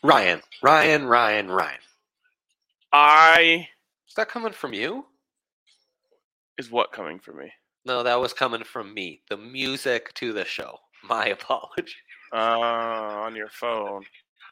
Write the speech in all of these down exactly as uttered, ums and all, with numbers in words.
Ryan, Ryan, Ryan, Ryan. I Is that coming from you? is what coming from me? No, that was coming from me. The music to the show. My apology. Uh, on your phone.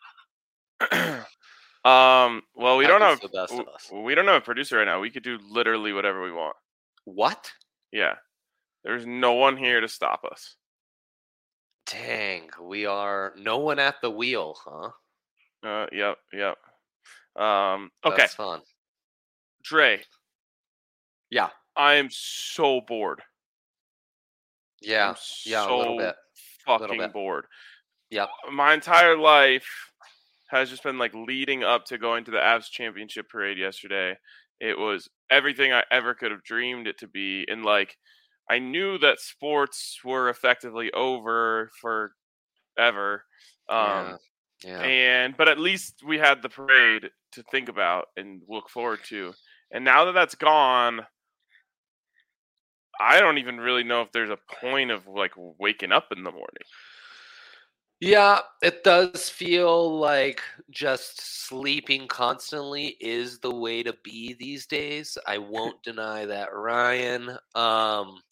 um. Well, we don't Happens have to the best w- of us. we don't have a producer right now. We could do literally whatever we want. What? Yeah. There's no one here to stop us. Dang, we are no one at the wheel, huh? Uh. Yep. Yep. Um. Okay. That's fun. Dre. Yeah. I am so bored. Yeah. I'm Yeah, a so little bit. fucking Little bit. bored. Yep. My entire life has just been like leading up to going to the Avs championship parade yesterday. It was everything I ever could have dreamed it to be. And like, I knew that sports were effectively over forever. Um, Yeah. Yeah. and, but at least we had the parade to think about and look forward to. And now that that's gone, I don't even really know if there's a point of like waking up in the morning. Yeah, it does feel like just sleeping constantly is the way to be these days. I won't deny that, Ryan. Um,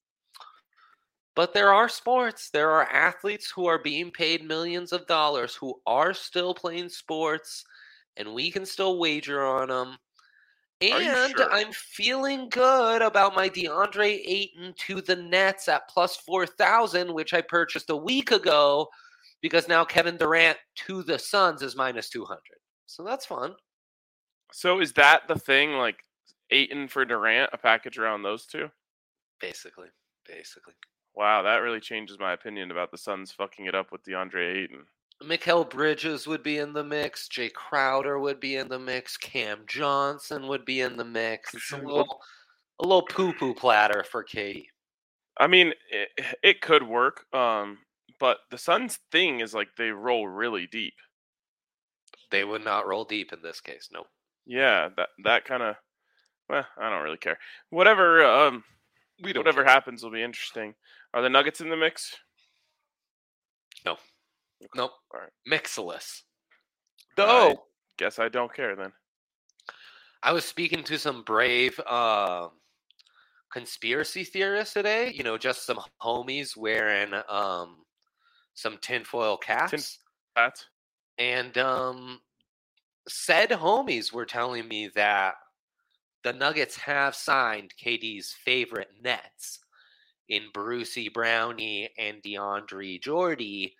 but there are sports. There are athletes who are being paid millions of dollars who are still playing sports, and we can still wager on them. Are you And sure? I'm feeling good about my DeAndre Ayton to the Nets at plus four thousand, which I purchased a week ago because now Kevin Durant to the Suns is minus two hundred. So that's fun. So is that the thing? Like Aiton for Durant, a package around those two? Basically. Basically. Wow, that really changes my opinion about the Suns fucking it up with DeAndre Ayton. Mikal Bridges would be in the mix. Jay Crowder would be in the mix. Cam Johnson would be in the mix. It's a little, a little poo-poo platter for Katie. I mean, it, it could work, um, but the Suns thing is like they roll really deep. They would not roll deep in this case. Nope. Yeah, that that kind of. Well, I don't really care. Whatever. Um, We don't whatever care. happens will be interesting. Are the Nuggets in the mix? No. Okay. Nope. All right. Mixless. I guess I don't care then. I was speaking to some brave uh, conspiracy theorists today. You know, just some homies wearing um, some tinfoil caps. Tin hats. And um, said homies were telling me that the Nuggets have signed K D's favorite Nets in Brucey Brownie and DeAndre Jordy,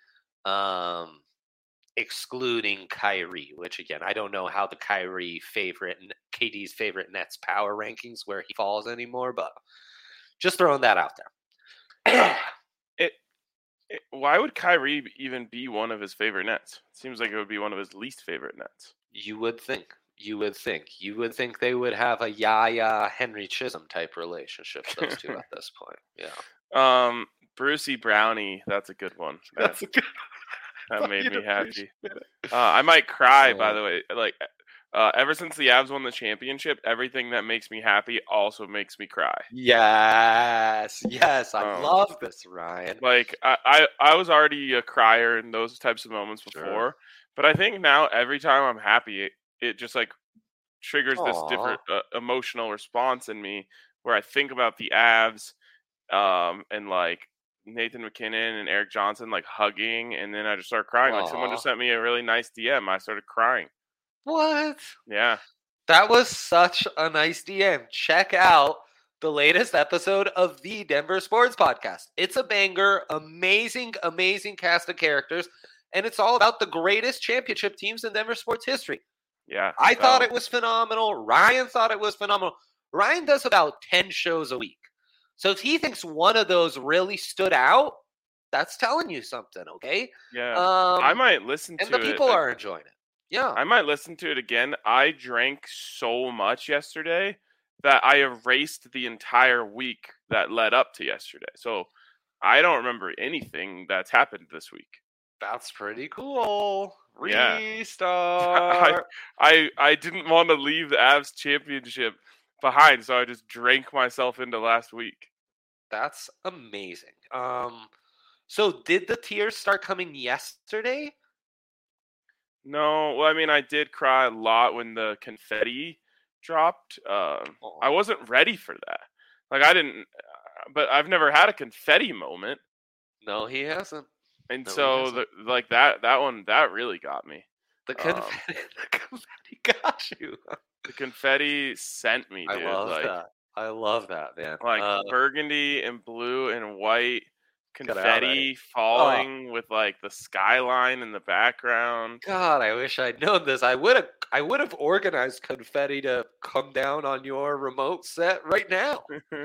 um, excluding Kyrie, which again, I don't know how the Kyrie favorite, K D's favorite Nets power rankings where he falls anymore, but just throwing that out there. it, it. Why would Kyrie even be one of his favorite Nets? Seems like it would be one of his least favorite Nets. You would think. You would think. You would think they would have a Yaya Henry Chisholm type relationship, those two at this point. Yeah. Um, Brucey Brownie, that's a good one. That, That's a good that made me happy. Uh, I might cry, by the way. Like, uh, ever since the Avs won the championship, everything that makes me happy also makes me cry. Yes, yes, I Um, love this, Ryan. Like, I, I, I was already a crier in those types of moments before, Sure. but I think now every time I'm happy, it, it just like triggers this Aw. different uh, emotional response in me where I think about the Avs, um, and like Nathan McKinnon and Eric Johnson like hugging, and then I just start crying. Like someone just Aw. sent me a really nice D M. I started crying. What? Yeah. That was such a nice D M. Check out the latest episode of the Denver Sports Podcast. It's a banger, amazing, amazing cast of characters, and it's all about the greatest championship teams in Denver sports history. Yeah. I that thought one. it was phenomenal. Ryan thought it was phenomenal. Ryan does about ten shows a week. So if he thinks one of those really stood out, that's telling you something, okay? Yeah. Um, I might listen and to the it. people ag- are enjoying it. Yeah. I might listen to it again. I drank so much yesterday that I erased the entire week that led up to yesterday. So I don't remember anything that's happened this week. That's pretty cool. Yeah. Restart. I I didn't want to leave the Avs championship behind, so I just drank myself into last week. That's amazing. Um, so did the tears start coming yesterday? No, well, I mean, I did cry a lot when the confetti dropped. Uh, Oh, I wasn't ready for that. Like, I didn't, uh, but I've never had a confetti moment, no, he hasn't. and No, he so hasn't. the like that that one that really got me. The Um, confetti, the confetti got you. the confetti sent me, I dude. love Like, that. I love that, man. like Uh, burgundy and blue and white get out of here. confetti Oh falling with like the skyline in the background. God, I wish I'd known this. I would have. I would have organized confetti to come down on your remote set right now.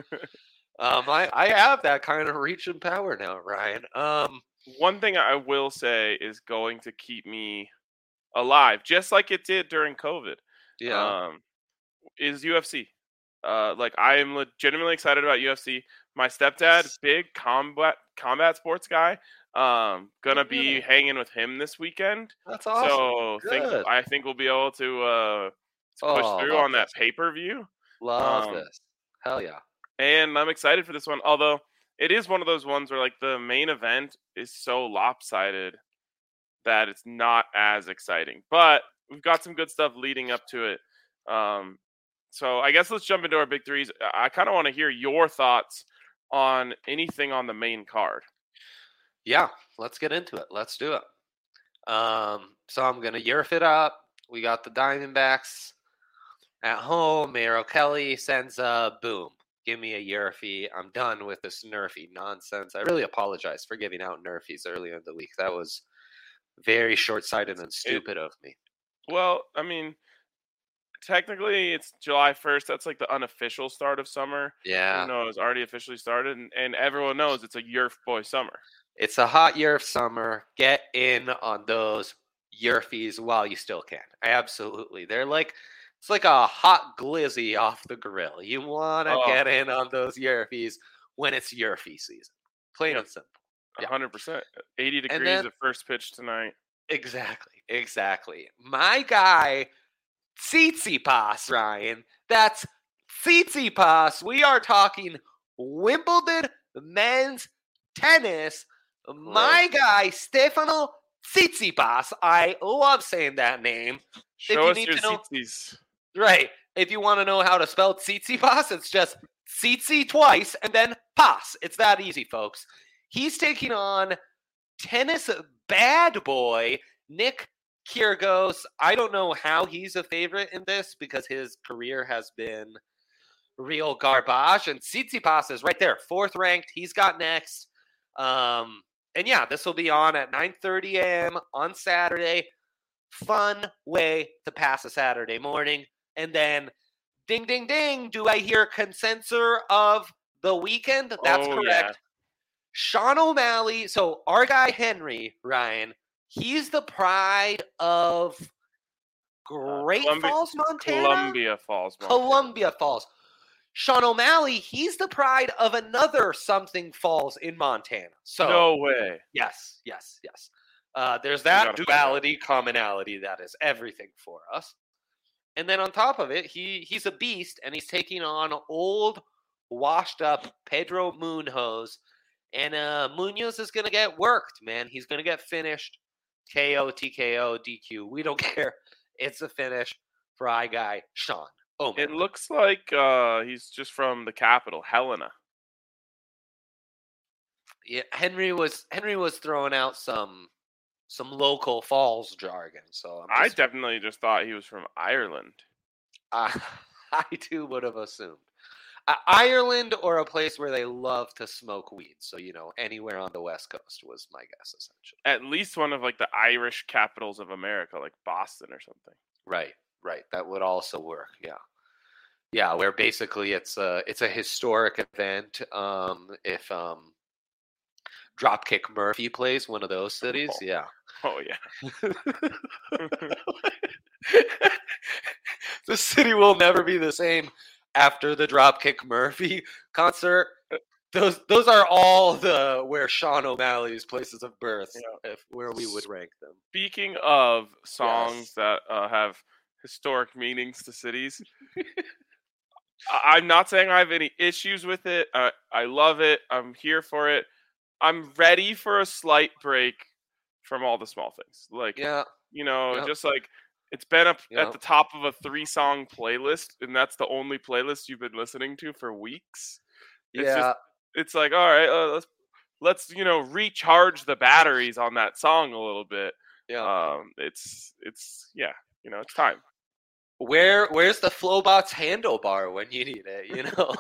Um, I I have that kind of reach and power now, Ryan. Um, One thing I will say is going to keep me alive, just like it did during COVID, yeah. um, is U F C. Uh, like I am legitimately excited about U F C. My stepdad, big combat combat sports guy, um, gonna be Yeah, hanging with him this weekend. that's awesome. So think Good. I think we'll be able to uh, to push Oh, through love on that this. pay per view. Love Um, this. Hell yeah. and I'm excited for this one. Although it is one of those ones where like the main event is so lopsided that it's not as exciting. But we've got some good stuff leading up to it. Um, so I guess let's jump into our big threes. I kind of want to hear your thoughts on anything on the main card. Yeah, let's get into it. Let's do it. Um, so I'm gonna yerf it up. We got the Diamondbacks at home. Merrill Kelly sends a boom. Give me a Yerfie. I'm done with this Nerfy nonsense. I really apologize for giving out Nerfies earlier in the week. That was very short-sighted and It, stupid of me. well, I mean, technically it's July first. That's like the unofficial start of summer. Yeah, Even though it's already officially started, and, and everyone knows it's a Yerf boy summer. it's a hot Yerf summer. Get in on those Yerfies while you still can. Absolutely. They're like, it's like a hot glizzy off the grill. You want to Oh, get in on those Yerfies when it's Yerfie season. Plain yep, and simple. Yeah. one hundred percent. eighty And degrees then, at first pitch tonight. exactly, exactly. My guy, Tsitsipas, Ryan. That's Tsitsipas. We are talking Wimbledon men's tennis. My Gross. guy, Stefano Tsitsipas. I love saying that name. Show you us need your to know- tzitzis. Right. If you want to know how to spell Tsitsipas, it's just Tsitsi twice and then Pas. It's that easy, folks. He's taking on tennis bad boy Nick Kyrgios. I don't know how he's a favorite in this because his career has been real garbage. And Tsitsipas is right there, fourth ranked. He's got next. Um, and yeah, this will be on at nine thirty a.m. on Saturday. Fun way to pass a Saturday morning. And then, ding, ding, ding, do I hear consensus of the weekend? That's Oh, correct. yeah. Sean O'Malley. So our guy Henry, Ryan, he's the pride of Great Columbia- Falls, Montana? Columbia Falls, Montana. Columbia Falls. Sean O'Malley, he's the pride of another something falls in Montana. So No way. yes, yes, yes. Uh, there's that gotta find duality, commonality that is everything for us. And then on top of it, he he's a beast, and he's taking on old, washed up Pedro Munoz. And uh, Munoz is going to get worked, man. He's going to get finished. K O, T K O, D Q. We don't care. It's a finish for our guy, Sean O'Malley. It looks like uh, he's just from the capital, Helena. Yeah, Henry was Henry was throwing out some some local falls jargon. So I'm I just, definitely just thought he was from Ireland. uh, I too would have assumed. Uh, Ireland or a place where they love to smoke weed. So, you know, anywhere on the West Coast was my guess, essentially. At least one of like the Irish capitals of America, like Boston or something. Right, right. That would also work. Yeah. Yeah, where basically it's a it's a historic event. Um, if um, Dropkick Murphy plays one of those cities, Oh. yeah. Oh, yeah. The city will never be the same after the Dropkick Murphy concert. Those those are all the where Sean O'Malley's places of birth, Yeah. if where we would rank them. Speaking of songs Yes. that uh, have historic meanings to cities, I- I'm not saying I have any issues with it. I, I love it. I'm here for it. I'm ready for a slight break from all the small things. Like, Yeah, You know, Yep. just like it's been up Yep. at the top of a three-song playlist, and that's the only playlist you've been listening to for weeks. It's Yeah. just, it's like, all right, uh, let's let's you know recharge the batteries on that song a little bit. Yeah. Um, it's it's yeah, you know, it's time. Where where's the Flowbots handlebar when you need it? You know,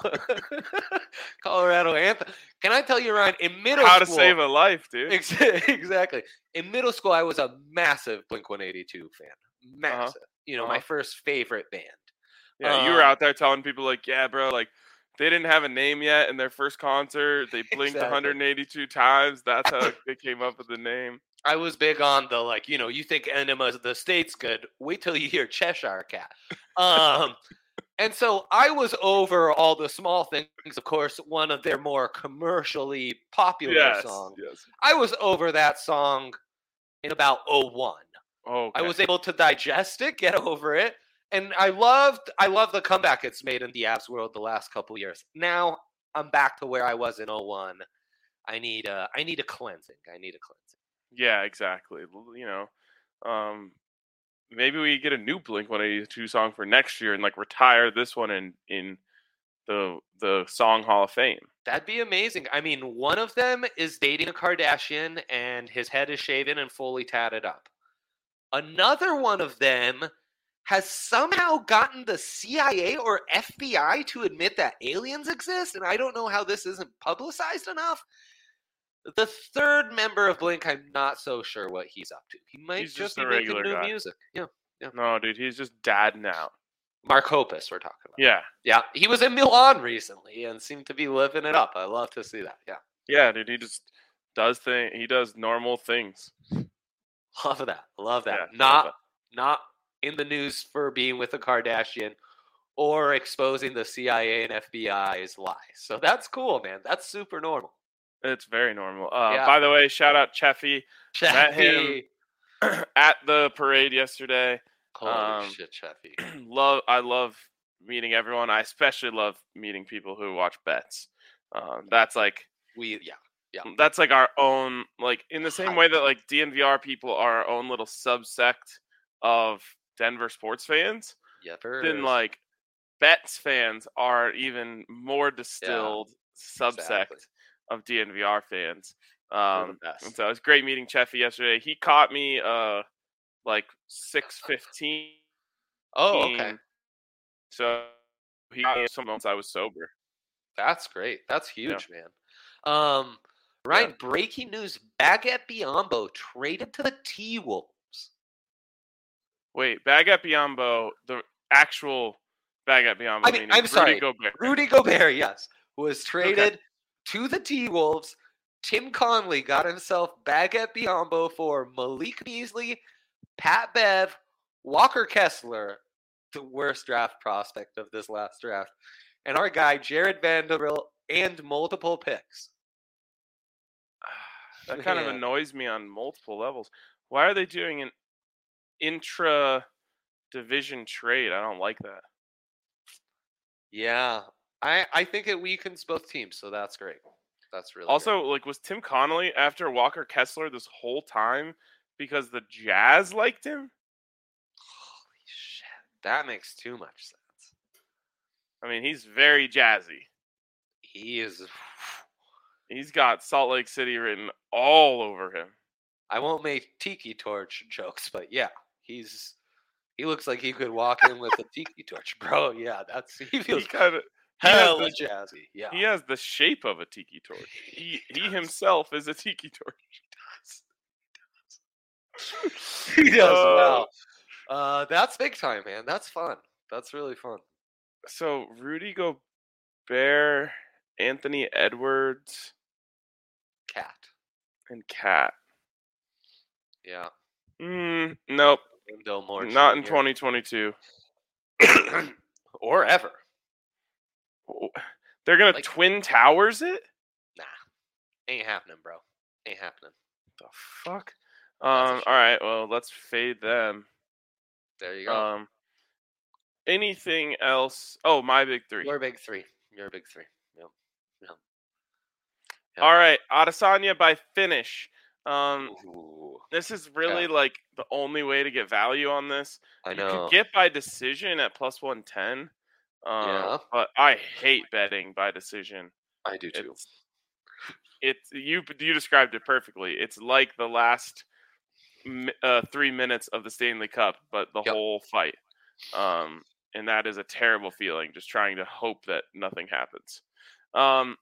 Colorado anthem. Can I tell you, Ryan? In middle How school, to save a life, dude. ex- exactly. In middle school, I was a massive Blink one eighty-two fan. Massive. Uh-huh. You know, uh-huh. my first favorite band. Yeah, um, you were out there telling people like, yeah, bro, like they didn't have a name yet in their first concert. They blinked exactly. one hundred eighty-two times. That's how they came up with the name. I was big on the, like, you know, you think Enema of the State's good. Wait till you hear Cheshire Cat. Um, and so I was over all the small things. Of course, one of their more commercially popular yes, songs. Yes. I was over that song in about oh one. Oh, okay. I was able to digest it, get over it. And I loved, I love the comeback it's made in the Avs world the last couple years. Now I'm back to where I was in oh one. I need a, I need a cleansing. I need a cleansing. Yeah, exactly. You know, um, maybe we get a new Blink one eighty-two song for next year and like retire this one in in the the Song Hall of Fame. That'd be amazing. I mean, one of them is dating a Kardashian and his head is shaven and fully tatted up. Another one of them has somehow gotten the C I A or F B I to admit that aliens exist, and I don't know how this isn't publicized enough. The third member of Blink, I'm not so sure what he's up to. He might he's just, just be a making regular new guy. music. Yeah, yeah. No, dude, he's just dad now. Mark Hoppus, we're talking about. Yeah. Yeah, he was in Milan recently and seemed to be living it up. I love to see that, yeah. Yeah, dude, he just does thing. He does normal things. Love that. Love that. Yeah, not, love that. not in the news for being with a Kardashian or exposing the C I A and F B I's lies. So that's cool, man. That's super normal. It's very normal. Uh, yeah. By the way, shout out Cheffy. Cheffy. Met him at the parade yesterday. Holy um, shit, Cheffy. love. I love meeting everyone. I especially love meeting people who watch bets. Um, that's like we, yeah, yeah. That's like our own, like in the same way that like D N V R people are our own little subsect of Denver sports fans. Yeah, then like Bets fans are even more distilled yeah, subsect. Exactly. Of D N V R fans. Um, and so it was great meeting Cheffy yesterday. He caught me uh like six fifteen. Oh, okay. So he got me some months I was sober. That's great. That's huge, yeah. man. Um, Ryan, yeah. breaking news: Baguette Biyombo traded to the T-Wolves. Wait, Baguette Biyombo, the actual Baguette Biyombo. I mean, I'm Rudy sorry, Gobert. Rudy Gobert, yes, was traded. Okay. To the T-Wolves. Tim Conley got himself Baguette Biyombo for Malik Beasley, Pat Bev, Walker Kessler, the worst draft prospect of this last draft, and our guy Jared Vanderbilt, and multiple picks. That kind yeah. of annoys me on multiple levels. Why are they doing an intra-division trade? I don't like that. Yeah. I, I think it weakens both teams, so that's great. That's really also great. Like was Tim Connolly after Walker Kessler this whole time because the Jazz liked him? Holy shit, that makes too much sense. I mean, he's very jazzy. He is. He's got Salt Lake City written all over him. I won't make tiki torch jokes, but yeah, he's. He looks like he could walk in with a tiki torch, bro. Yeah, that's he feels he kind of. Hella jazzy, yeah. He has the shape of a tiki torch. He he, he himself is a tiki torch. He does. He does. Uh, wow. Uh, that's big time, man. That's fun. That's really fun. So Rudy Gobert, Anthony Edwards, Cat, and Cat. Yeah. Mm, nope. More Not in twenty twenty-two. Or ever. They're gonna like, Twin Towers it? Nah, ain't happening, bro. Ain't happening. The fuck? Um. All right. Well, let's fade them. There you go. Um. Anything else? Oh, my big three. Your big three. Your big three. Yep. Yep. Yep. All right. Adesanya by finish. Um, Ooh, this is really yeah, like the only way to get value on this. I You could know. get by decision at plus one ten, um, Yeah, but I hate betting by decision. I do too. It's it's you you described it perfectly. It's like the last mi- uh, three minutes of the Stanley Cup, but the Yep. whole fight. Um, and that is a terrible feeling. Just trying to hope that nothing happens. Um,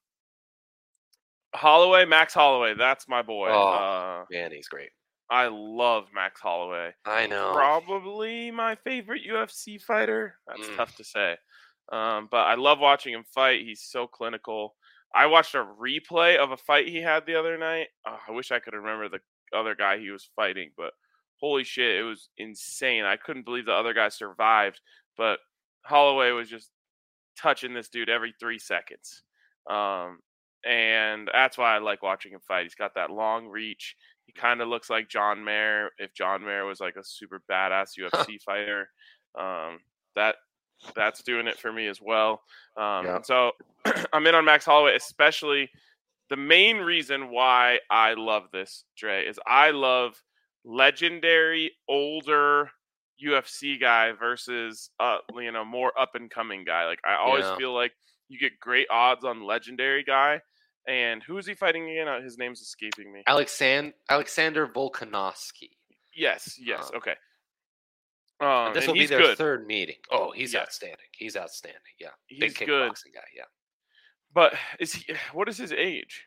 Holloway, Max Holloway, that's my boy. Oh, Uh, man, he's great. I love Max Holloway. I know. Probably my favorite U F C fighter. That's Mm, tough to say. Um, but I love watching him fight. He's so clinical. I watched a replay of a fight he had the other night. Oh, I wish I could remember the other guy he was fighting, but holy shit, it was insane. I couldn't believe the other guy survived, but Holloway was just touching this dude every three seconds. Um, and that's why I like watching him fight. He's got that long reach. He kind of looks like John Mayer if John Mayer was like a super badass U F C fighter. Um, that that's doing it for me as well. Um, yeah. and so I'm in on Max Holloway, especially the main reason why I love this, Dre, is I love legendary older U F C guy versus uh you know more up and coming guy. Like I always Yeah. feel like you get great odds on legendary guy. And who is he fighting again? Uh, His name's escaping me. Alexand- Alexander Volkanovski. Yes, yes, Um, okay. and Um, this and will be he's their good. third meeting. Oh, he's Yes, outstanding. He's outstanding. Yeah. he's Big good. kickboxing guy. Yeah. But is he? What is his age?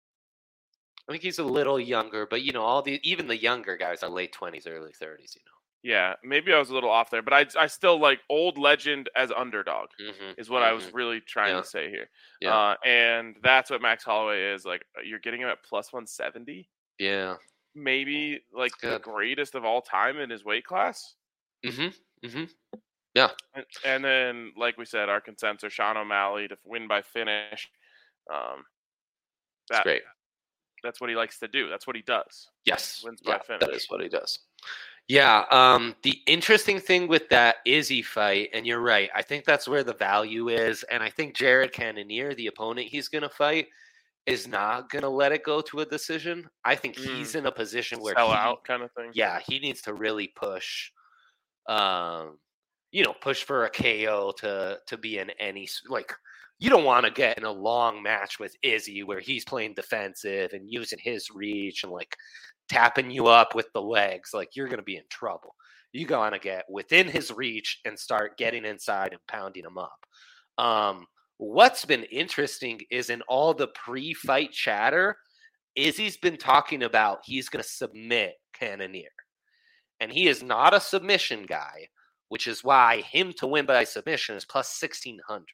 I think he's a little younger, but you know, all the even the younger guys are late twenties, early thirties. You Yeah, maybe I was a little off there, but I I still like old legend as underdog know. Mm-hmm, is what mm-hmm. I was really trying Yeah. to say here. Yeah. Uh, and that's what Max Holloway is like. You're getting him at plus one seventy, Yeah. maybe like It's the good. greatest of all time in his weight class. Mm-hmm. Mm-hmm. Yeah. And, and then, like we said, our consensus: Sean O'Malley to win by finish. Um, It's that great. that's what he likes to do. That's what he does. Yes. Wins Yeah. by finish. That is what he does. Yeah. Um, the interesting thing with that Izzy fight, and you're right, I think that's where the value is. And I think Jared Cannonier, the opponent he's going to fight, is not going to let it go to a decision. I think Mm. he's in a position where Sell he, out kind of thing. yeah, he needs to really push, um, you know, push for a K O to to be in any s- like. You don't want to get in a long match with Izzy where he's playing defensive and using his reach and like tapping you up with the legs. Like you're going to be in trouble. You got to get within his reach and start getting inside and pounding him up. Um, what's been interesting is in all the pre-fight chatter, Izzy's been talking about he's going to submit Cannonier. And he is not a submission guy, which is why him to win by submission is plus sixteen hundred.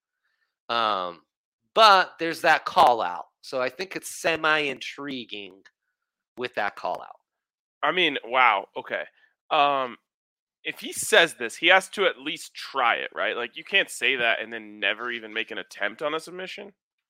Um, but there's that call out. So I think it's semi intriguing with that call out. I mean, wow. Okay. Um, if he says this, he has to at least try it, right? Like you can't say that and then never even make an attempt on a submission.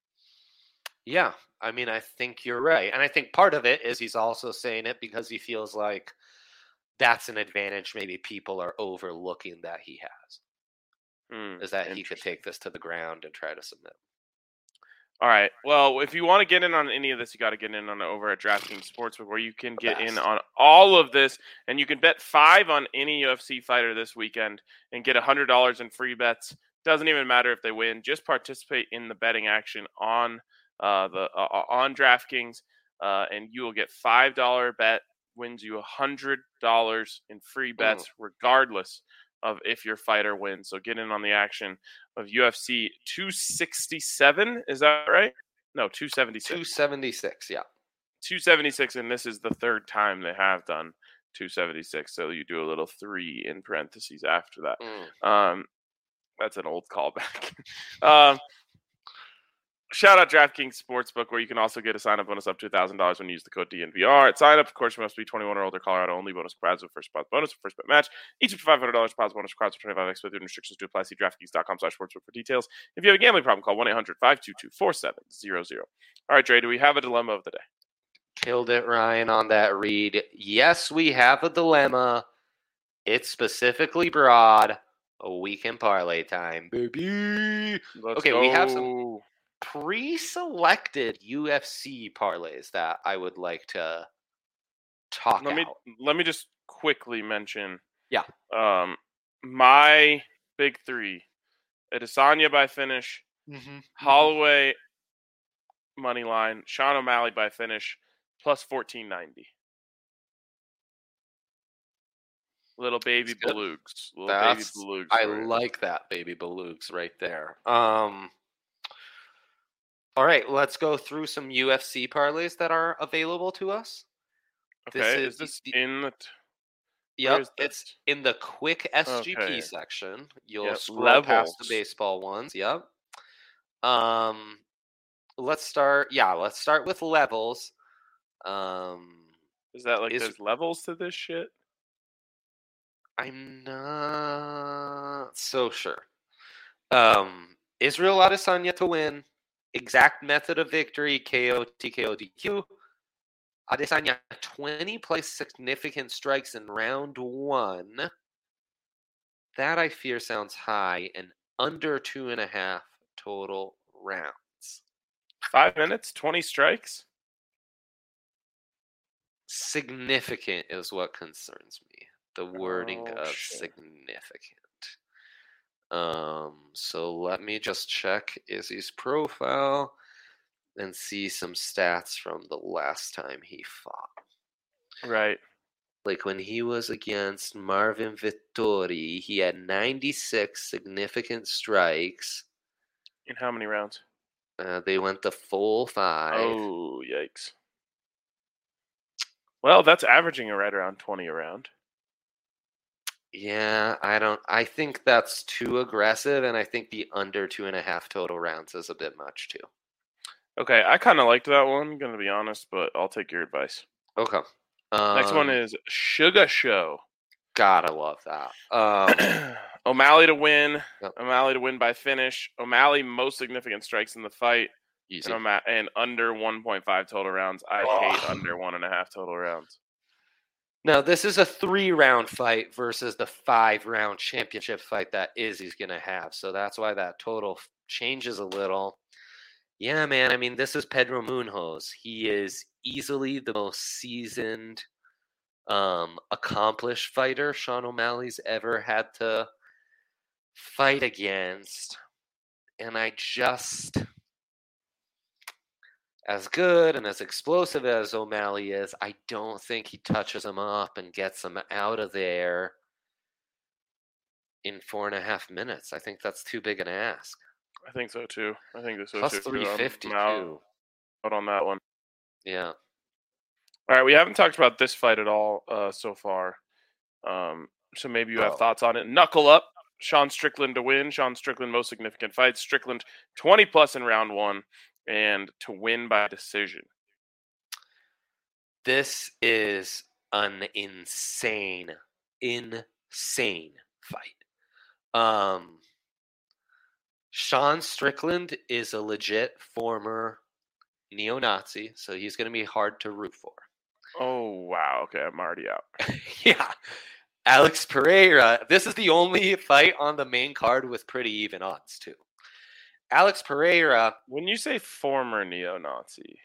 Yeah, I mean, I think you're right. And I think part of it is he's also saying it because he feels like that's an advantage maybe people are overlooking that he has. Hmm, Is that he could take this to the ground and try to submit. All right. Well, if you want to get in on any of this, you got to get in on it over at DraftKings Sportsbook, where you can get in on all of this, and you can bet five on any U F C fighter this weekend and get a hundred dollars in free bets. Doesn't even matter if they win; just participate in the betting action on uh, the uh, on DraftKings, uh, and you will get five dollar bet wins you a hundred dollars in free bets, mm. regardless of if your fighter wins. So get in on the action of U F C two sixty-seven. Is that right? No, two seventy-six. two seventy-six, yeah. two seventy-six, and this is the third time they have done two seventy-six. So you do a little three in parentheses after that. Mm. Um, that's an old callback. um, Shout out DraftKings Sportsbook, where you can also get a sign-up bonus up to one thousand dollars when you use the code D N V R. At sign-up, of course, you must be twenty-one or older, Colorado only. Bonus prize of first spot bonus, first bet match. Each up to five hundred dollars prize bonus, crowds for twenty-five X. With restrictions to apply. See DraftKings.com slash sportsbook for details. If you have a gambling problem, call one eight hundred five two two four seven zero zero. All right, Dre, do we have a dilemma of the day? Killed it, Ryan, on that read. Yes, we have a dilemma. It's specifically broad. A weekend parlay time, baby. Let's okay, go. We have some pre-selected U F C parlays that I would like to talk let me out. let me just quickly mention. Yeah. Um, my big three: Adesanya by finish, Mm-hmm. Holloway money line, Sean O'Malley by finish, plus fourteen ninety. Little baby belugs. Little That's, baby belugs. I like that, baby belugs right there. Um, all right, let's go through some U F C parlays that are available to us. Okay, This is, is, this the, in the... T- yep, is it's this? in the quick S G P Okay. section. You'll Yep, scroll past the levels. baseball ones. Yep. Um, let's start. Yeah, let's start with levels. Um, Is that like is- there's levels to this shit? I'm not so sure. Um, Israel Adesanya to win. Exact method of victory: K O, T K O, D Q. Adesanya twenty plus significant strikes in round one. That I fear sounds high, and under two and a half total rounds. Five minutes, twenty strikes. Significant is what concerns me. The wording Oh, of shit. significant. Um, so let me just check Izzy's profile and see some stats from the last time he fought. Right. Like when he was against Marvin Vittori, he had ninety-six significant strikes. In how many rounds? Uh, they went the full five. Oh, yikes. Well, that's averaging right around twenty a round. Yeah, I don't. I think that's too aggressive, and I think the under two and a half total rounds is a bit much too. Okay, I kind of liked that one, gonna be honest, but I'll take your advice. Okay. Um, Next one is Sugar Show. Gotta love that. Um, O'Malley to win. Yep. O'Malley to win by finish. O'Malley most significant strikes in the fight. easy. And, O'Ma- and under one point five total rounds. I Oh. hate under one and a half total rounds. Now, this is a three-round fight versus the five-round championship fight that Izzy's going to have. So that's why that total changes a little. Yeah, man. I mean, this is Pedro Munhoz. He is easily the most seasoned, um, accomplished fighter Sean O'Malley's ever had to fight against. And I just... As good and as explosive as O'Malley is, I don't think he touches him up and gets him out of there in four and a half minutes. I think that's too big an ask. I think so too. I think this Plus too. three fifty I'm out, too. out on that one. Yeah. All right, we haven't talked about this fight at all uh, so far. Um, so maybe you have Oh. thoughts on it. Knuckle up. Sean Strickland to win. Sean Strickland most significant fights. Strickland twenty plus in round one and to win by decision. This is an insane, insane fight. Um, Sean Strickland is a legit former neo-Nazi, so he's going to be hard to root for. Oh, wow. Okay, I'm already out. Yeah. Alex Pereira. This is the only fight on the main card with pretty even odds, too. Alex Pereira. When you say former neo-Nazi,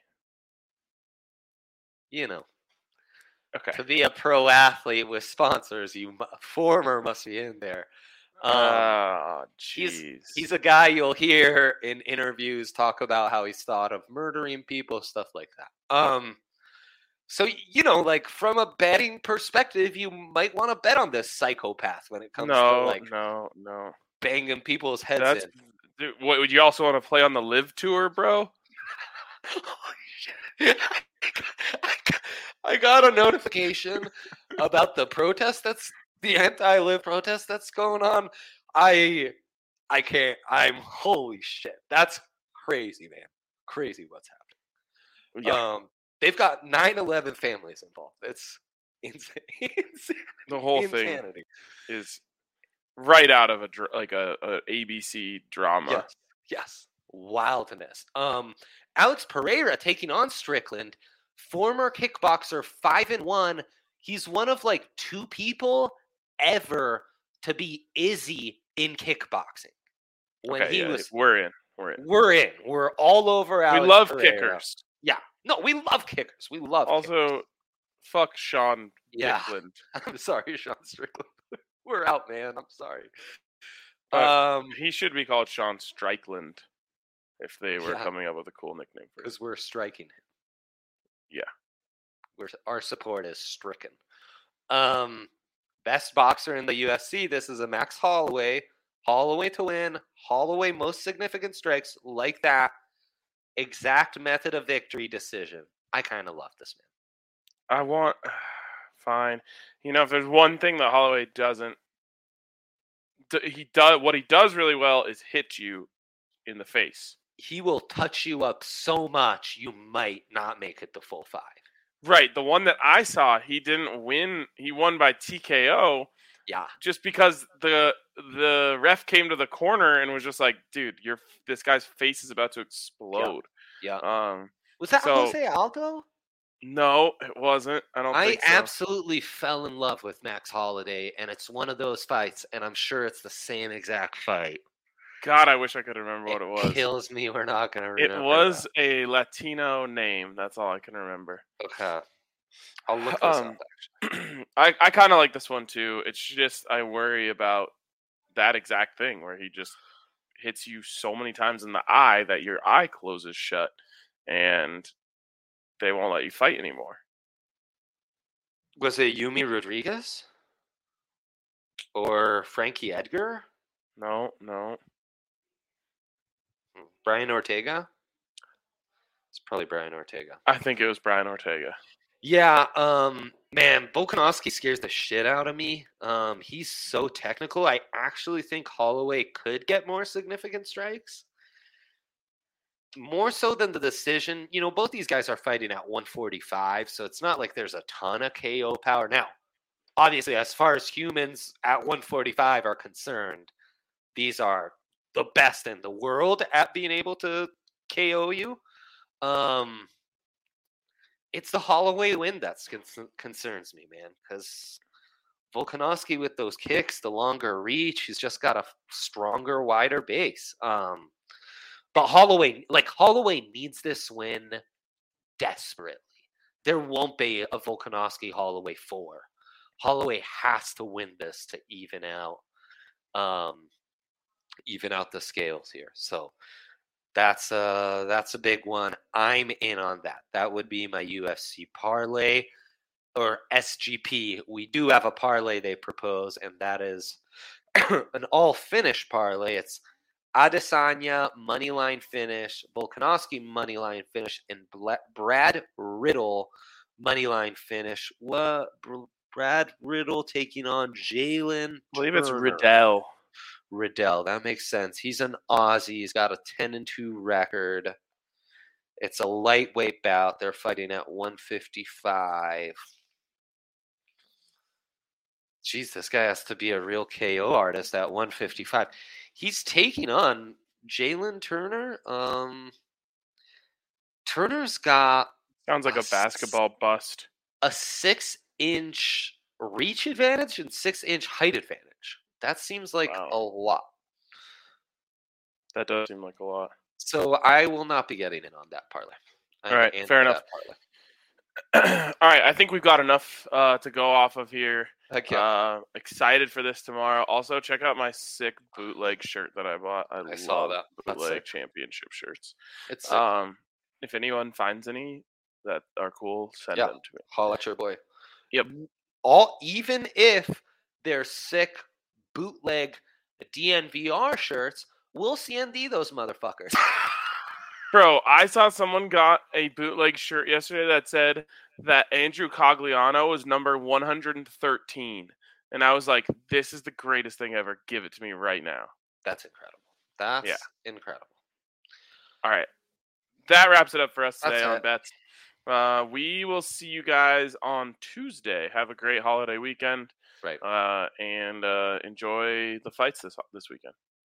you know, okay, to be a pro athlete with sponsors, you former must be in there. Um, oh, he's jeez. he's a guy you'll hear in interviews talk about how he's thought of murdering people, stuff like that. Um, so you know, like from a betting perspective, you might want to bet on this psychopath when it comes no, to like no, no, banging people's heads That's, in. Dude, what, would you also want to play on the Live Tour, bro? Holy shit. I got a notification about the protest that's the anti-live protest that's going on. I I can't I'm holy shit. That's crazy, man. Crazy what's happening. Yeah. Um they've got nine eleven families involved. It's insane. The whole Insanity. thing is right out of a like a, a A B C drama. Yes. Yes. Wildness. Um Alex Pereira taking on Strickland, former kickboxer, five and one. He's one of like two people ever to be Izzy in kickboxing. When okay, he yeah, was, we're in. We're in. We're in. We're all over Alex We love Pereira. kickers. Yeah. No, we love kickers. We love also kickers. fuck Sean Yeah. Dickland. I'm sorry, Sean Strickland. We're out, man. I'm sorry. But Um, he should be called Sean Strickland if they were Yeah. coming up with a cool nickname for him. because we're striking him. Yeah. We're, our support is stricken. Um, best boxer in the U F C. This is a Max Holloway. Holloway to win. Holloway most significant strikes like that. Exact method of victory decision. I kind of love this man. I want fine. You know, if there's one thing that Holloway doesn't, he does what he does really well is hit you in the face. He will touch you up so much you might not make it the full five. Right, the one that I saw, he didn't win. He won by T K O. Yeah, just because the the ref came to the corner and was just like, "Dude, your this guy's face is about to explode." yeah. Um, Was that so, Jose Aldo? No, it wasn't. I don't I think so. absolutely fell in love with Max Holloway, and it's one of those fights, and I'm sure it's the same exact fight. God, I wish I could remember what it was. It kills me. We're not going to remember. It was that. a Latino name. That's all I can remember. Okay. I'll look this Um, up, actually. I, I kind of like this one, too. It's just I worry about that exact thing where he just hits you so many times in the eye that your eye closes shut and they won't let you fight anymore. Was it Yumi Rodriguez? Or Frankie Edgar? No, no. Brian Ortega? It's probably Brian Ortega. I think it was Brian Ortega. Yeah, um, man, Volkanovski scares the shit out of me. Um, he's so technical. I actually think Holloway could get more significant strikes. More so than the decision. You know, both these guys are fighting at one forty-five, so it's not like there's a ton of K O power. Now, obviously, as far as humans at one forty-five are concerned, these are the best in the world at being able to K O you. Um, it's the Holloway win that con- concerns me, man, because Volkanovski with those kicks, the longer reach, he's just got a stronger, wider base. Um, but Holloway, like Holloway needs this win desperately. There won't be a Volkanovski Holloway four. Holloway has to win this to even out, um, even out the scales here. So that's a that's a big one. I'm in on that. That would be my U F C parlay or S G P. We do have a parlay they propose, and that is an all finish parlay. It's Adesanya moneyline finish, Volkanovski moneyline finish, and Brad Riddle moneyline finish. What? Brad Riddle taking on Jalen. I believe it's Riddell. Riddell, that makes sense. He's an Aussie. He's got a ten and two record. It's a lightweight bout. They're fighting at one fifty-five. Jeez, this guy has to be a real K O artist at one fifty-five. He's taking on Jalen Turner. Um, Turner's got sounds like a, a basketball s- bust. A six-inch reach advantage and six-inch height advantage. That seems like wow. a lot. That does seem like a lot. So I will not be getting in on that parlay. All right, fair enough. All right, I think we've got enough uh, to go off of here. Okay. Uh, excited for this tomorrow. Also, check out my sick bootleg shirt that I bought. I, I love saw that. bootleg championship shirts. It's sick. Um, if anyone finds any that are cool, send yeah. them to me. Holla at your boy. Yep. All even if they're sick bootleg D N V R shirts, we'll C N D those motherfuckers. Bro, I saw someone got a bootleg shirt yesterday that said that Andrew Cogliano was number one hundred thirteen. And I was like, this is the greatest thing ever. Give it to me right now. That's incredible. That's yeah. incredible. All right. That wraps it up for us today That's on it. Bets. Uh, we will see you guys on Tuesday. Have a great holiday weekend. Right. Uh, and uh, enjoy the fights this this weekend.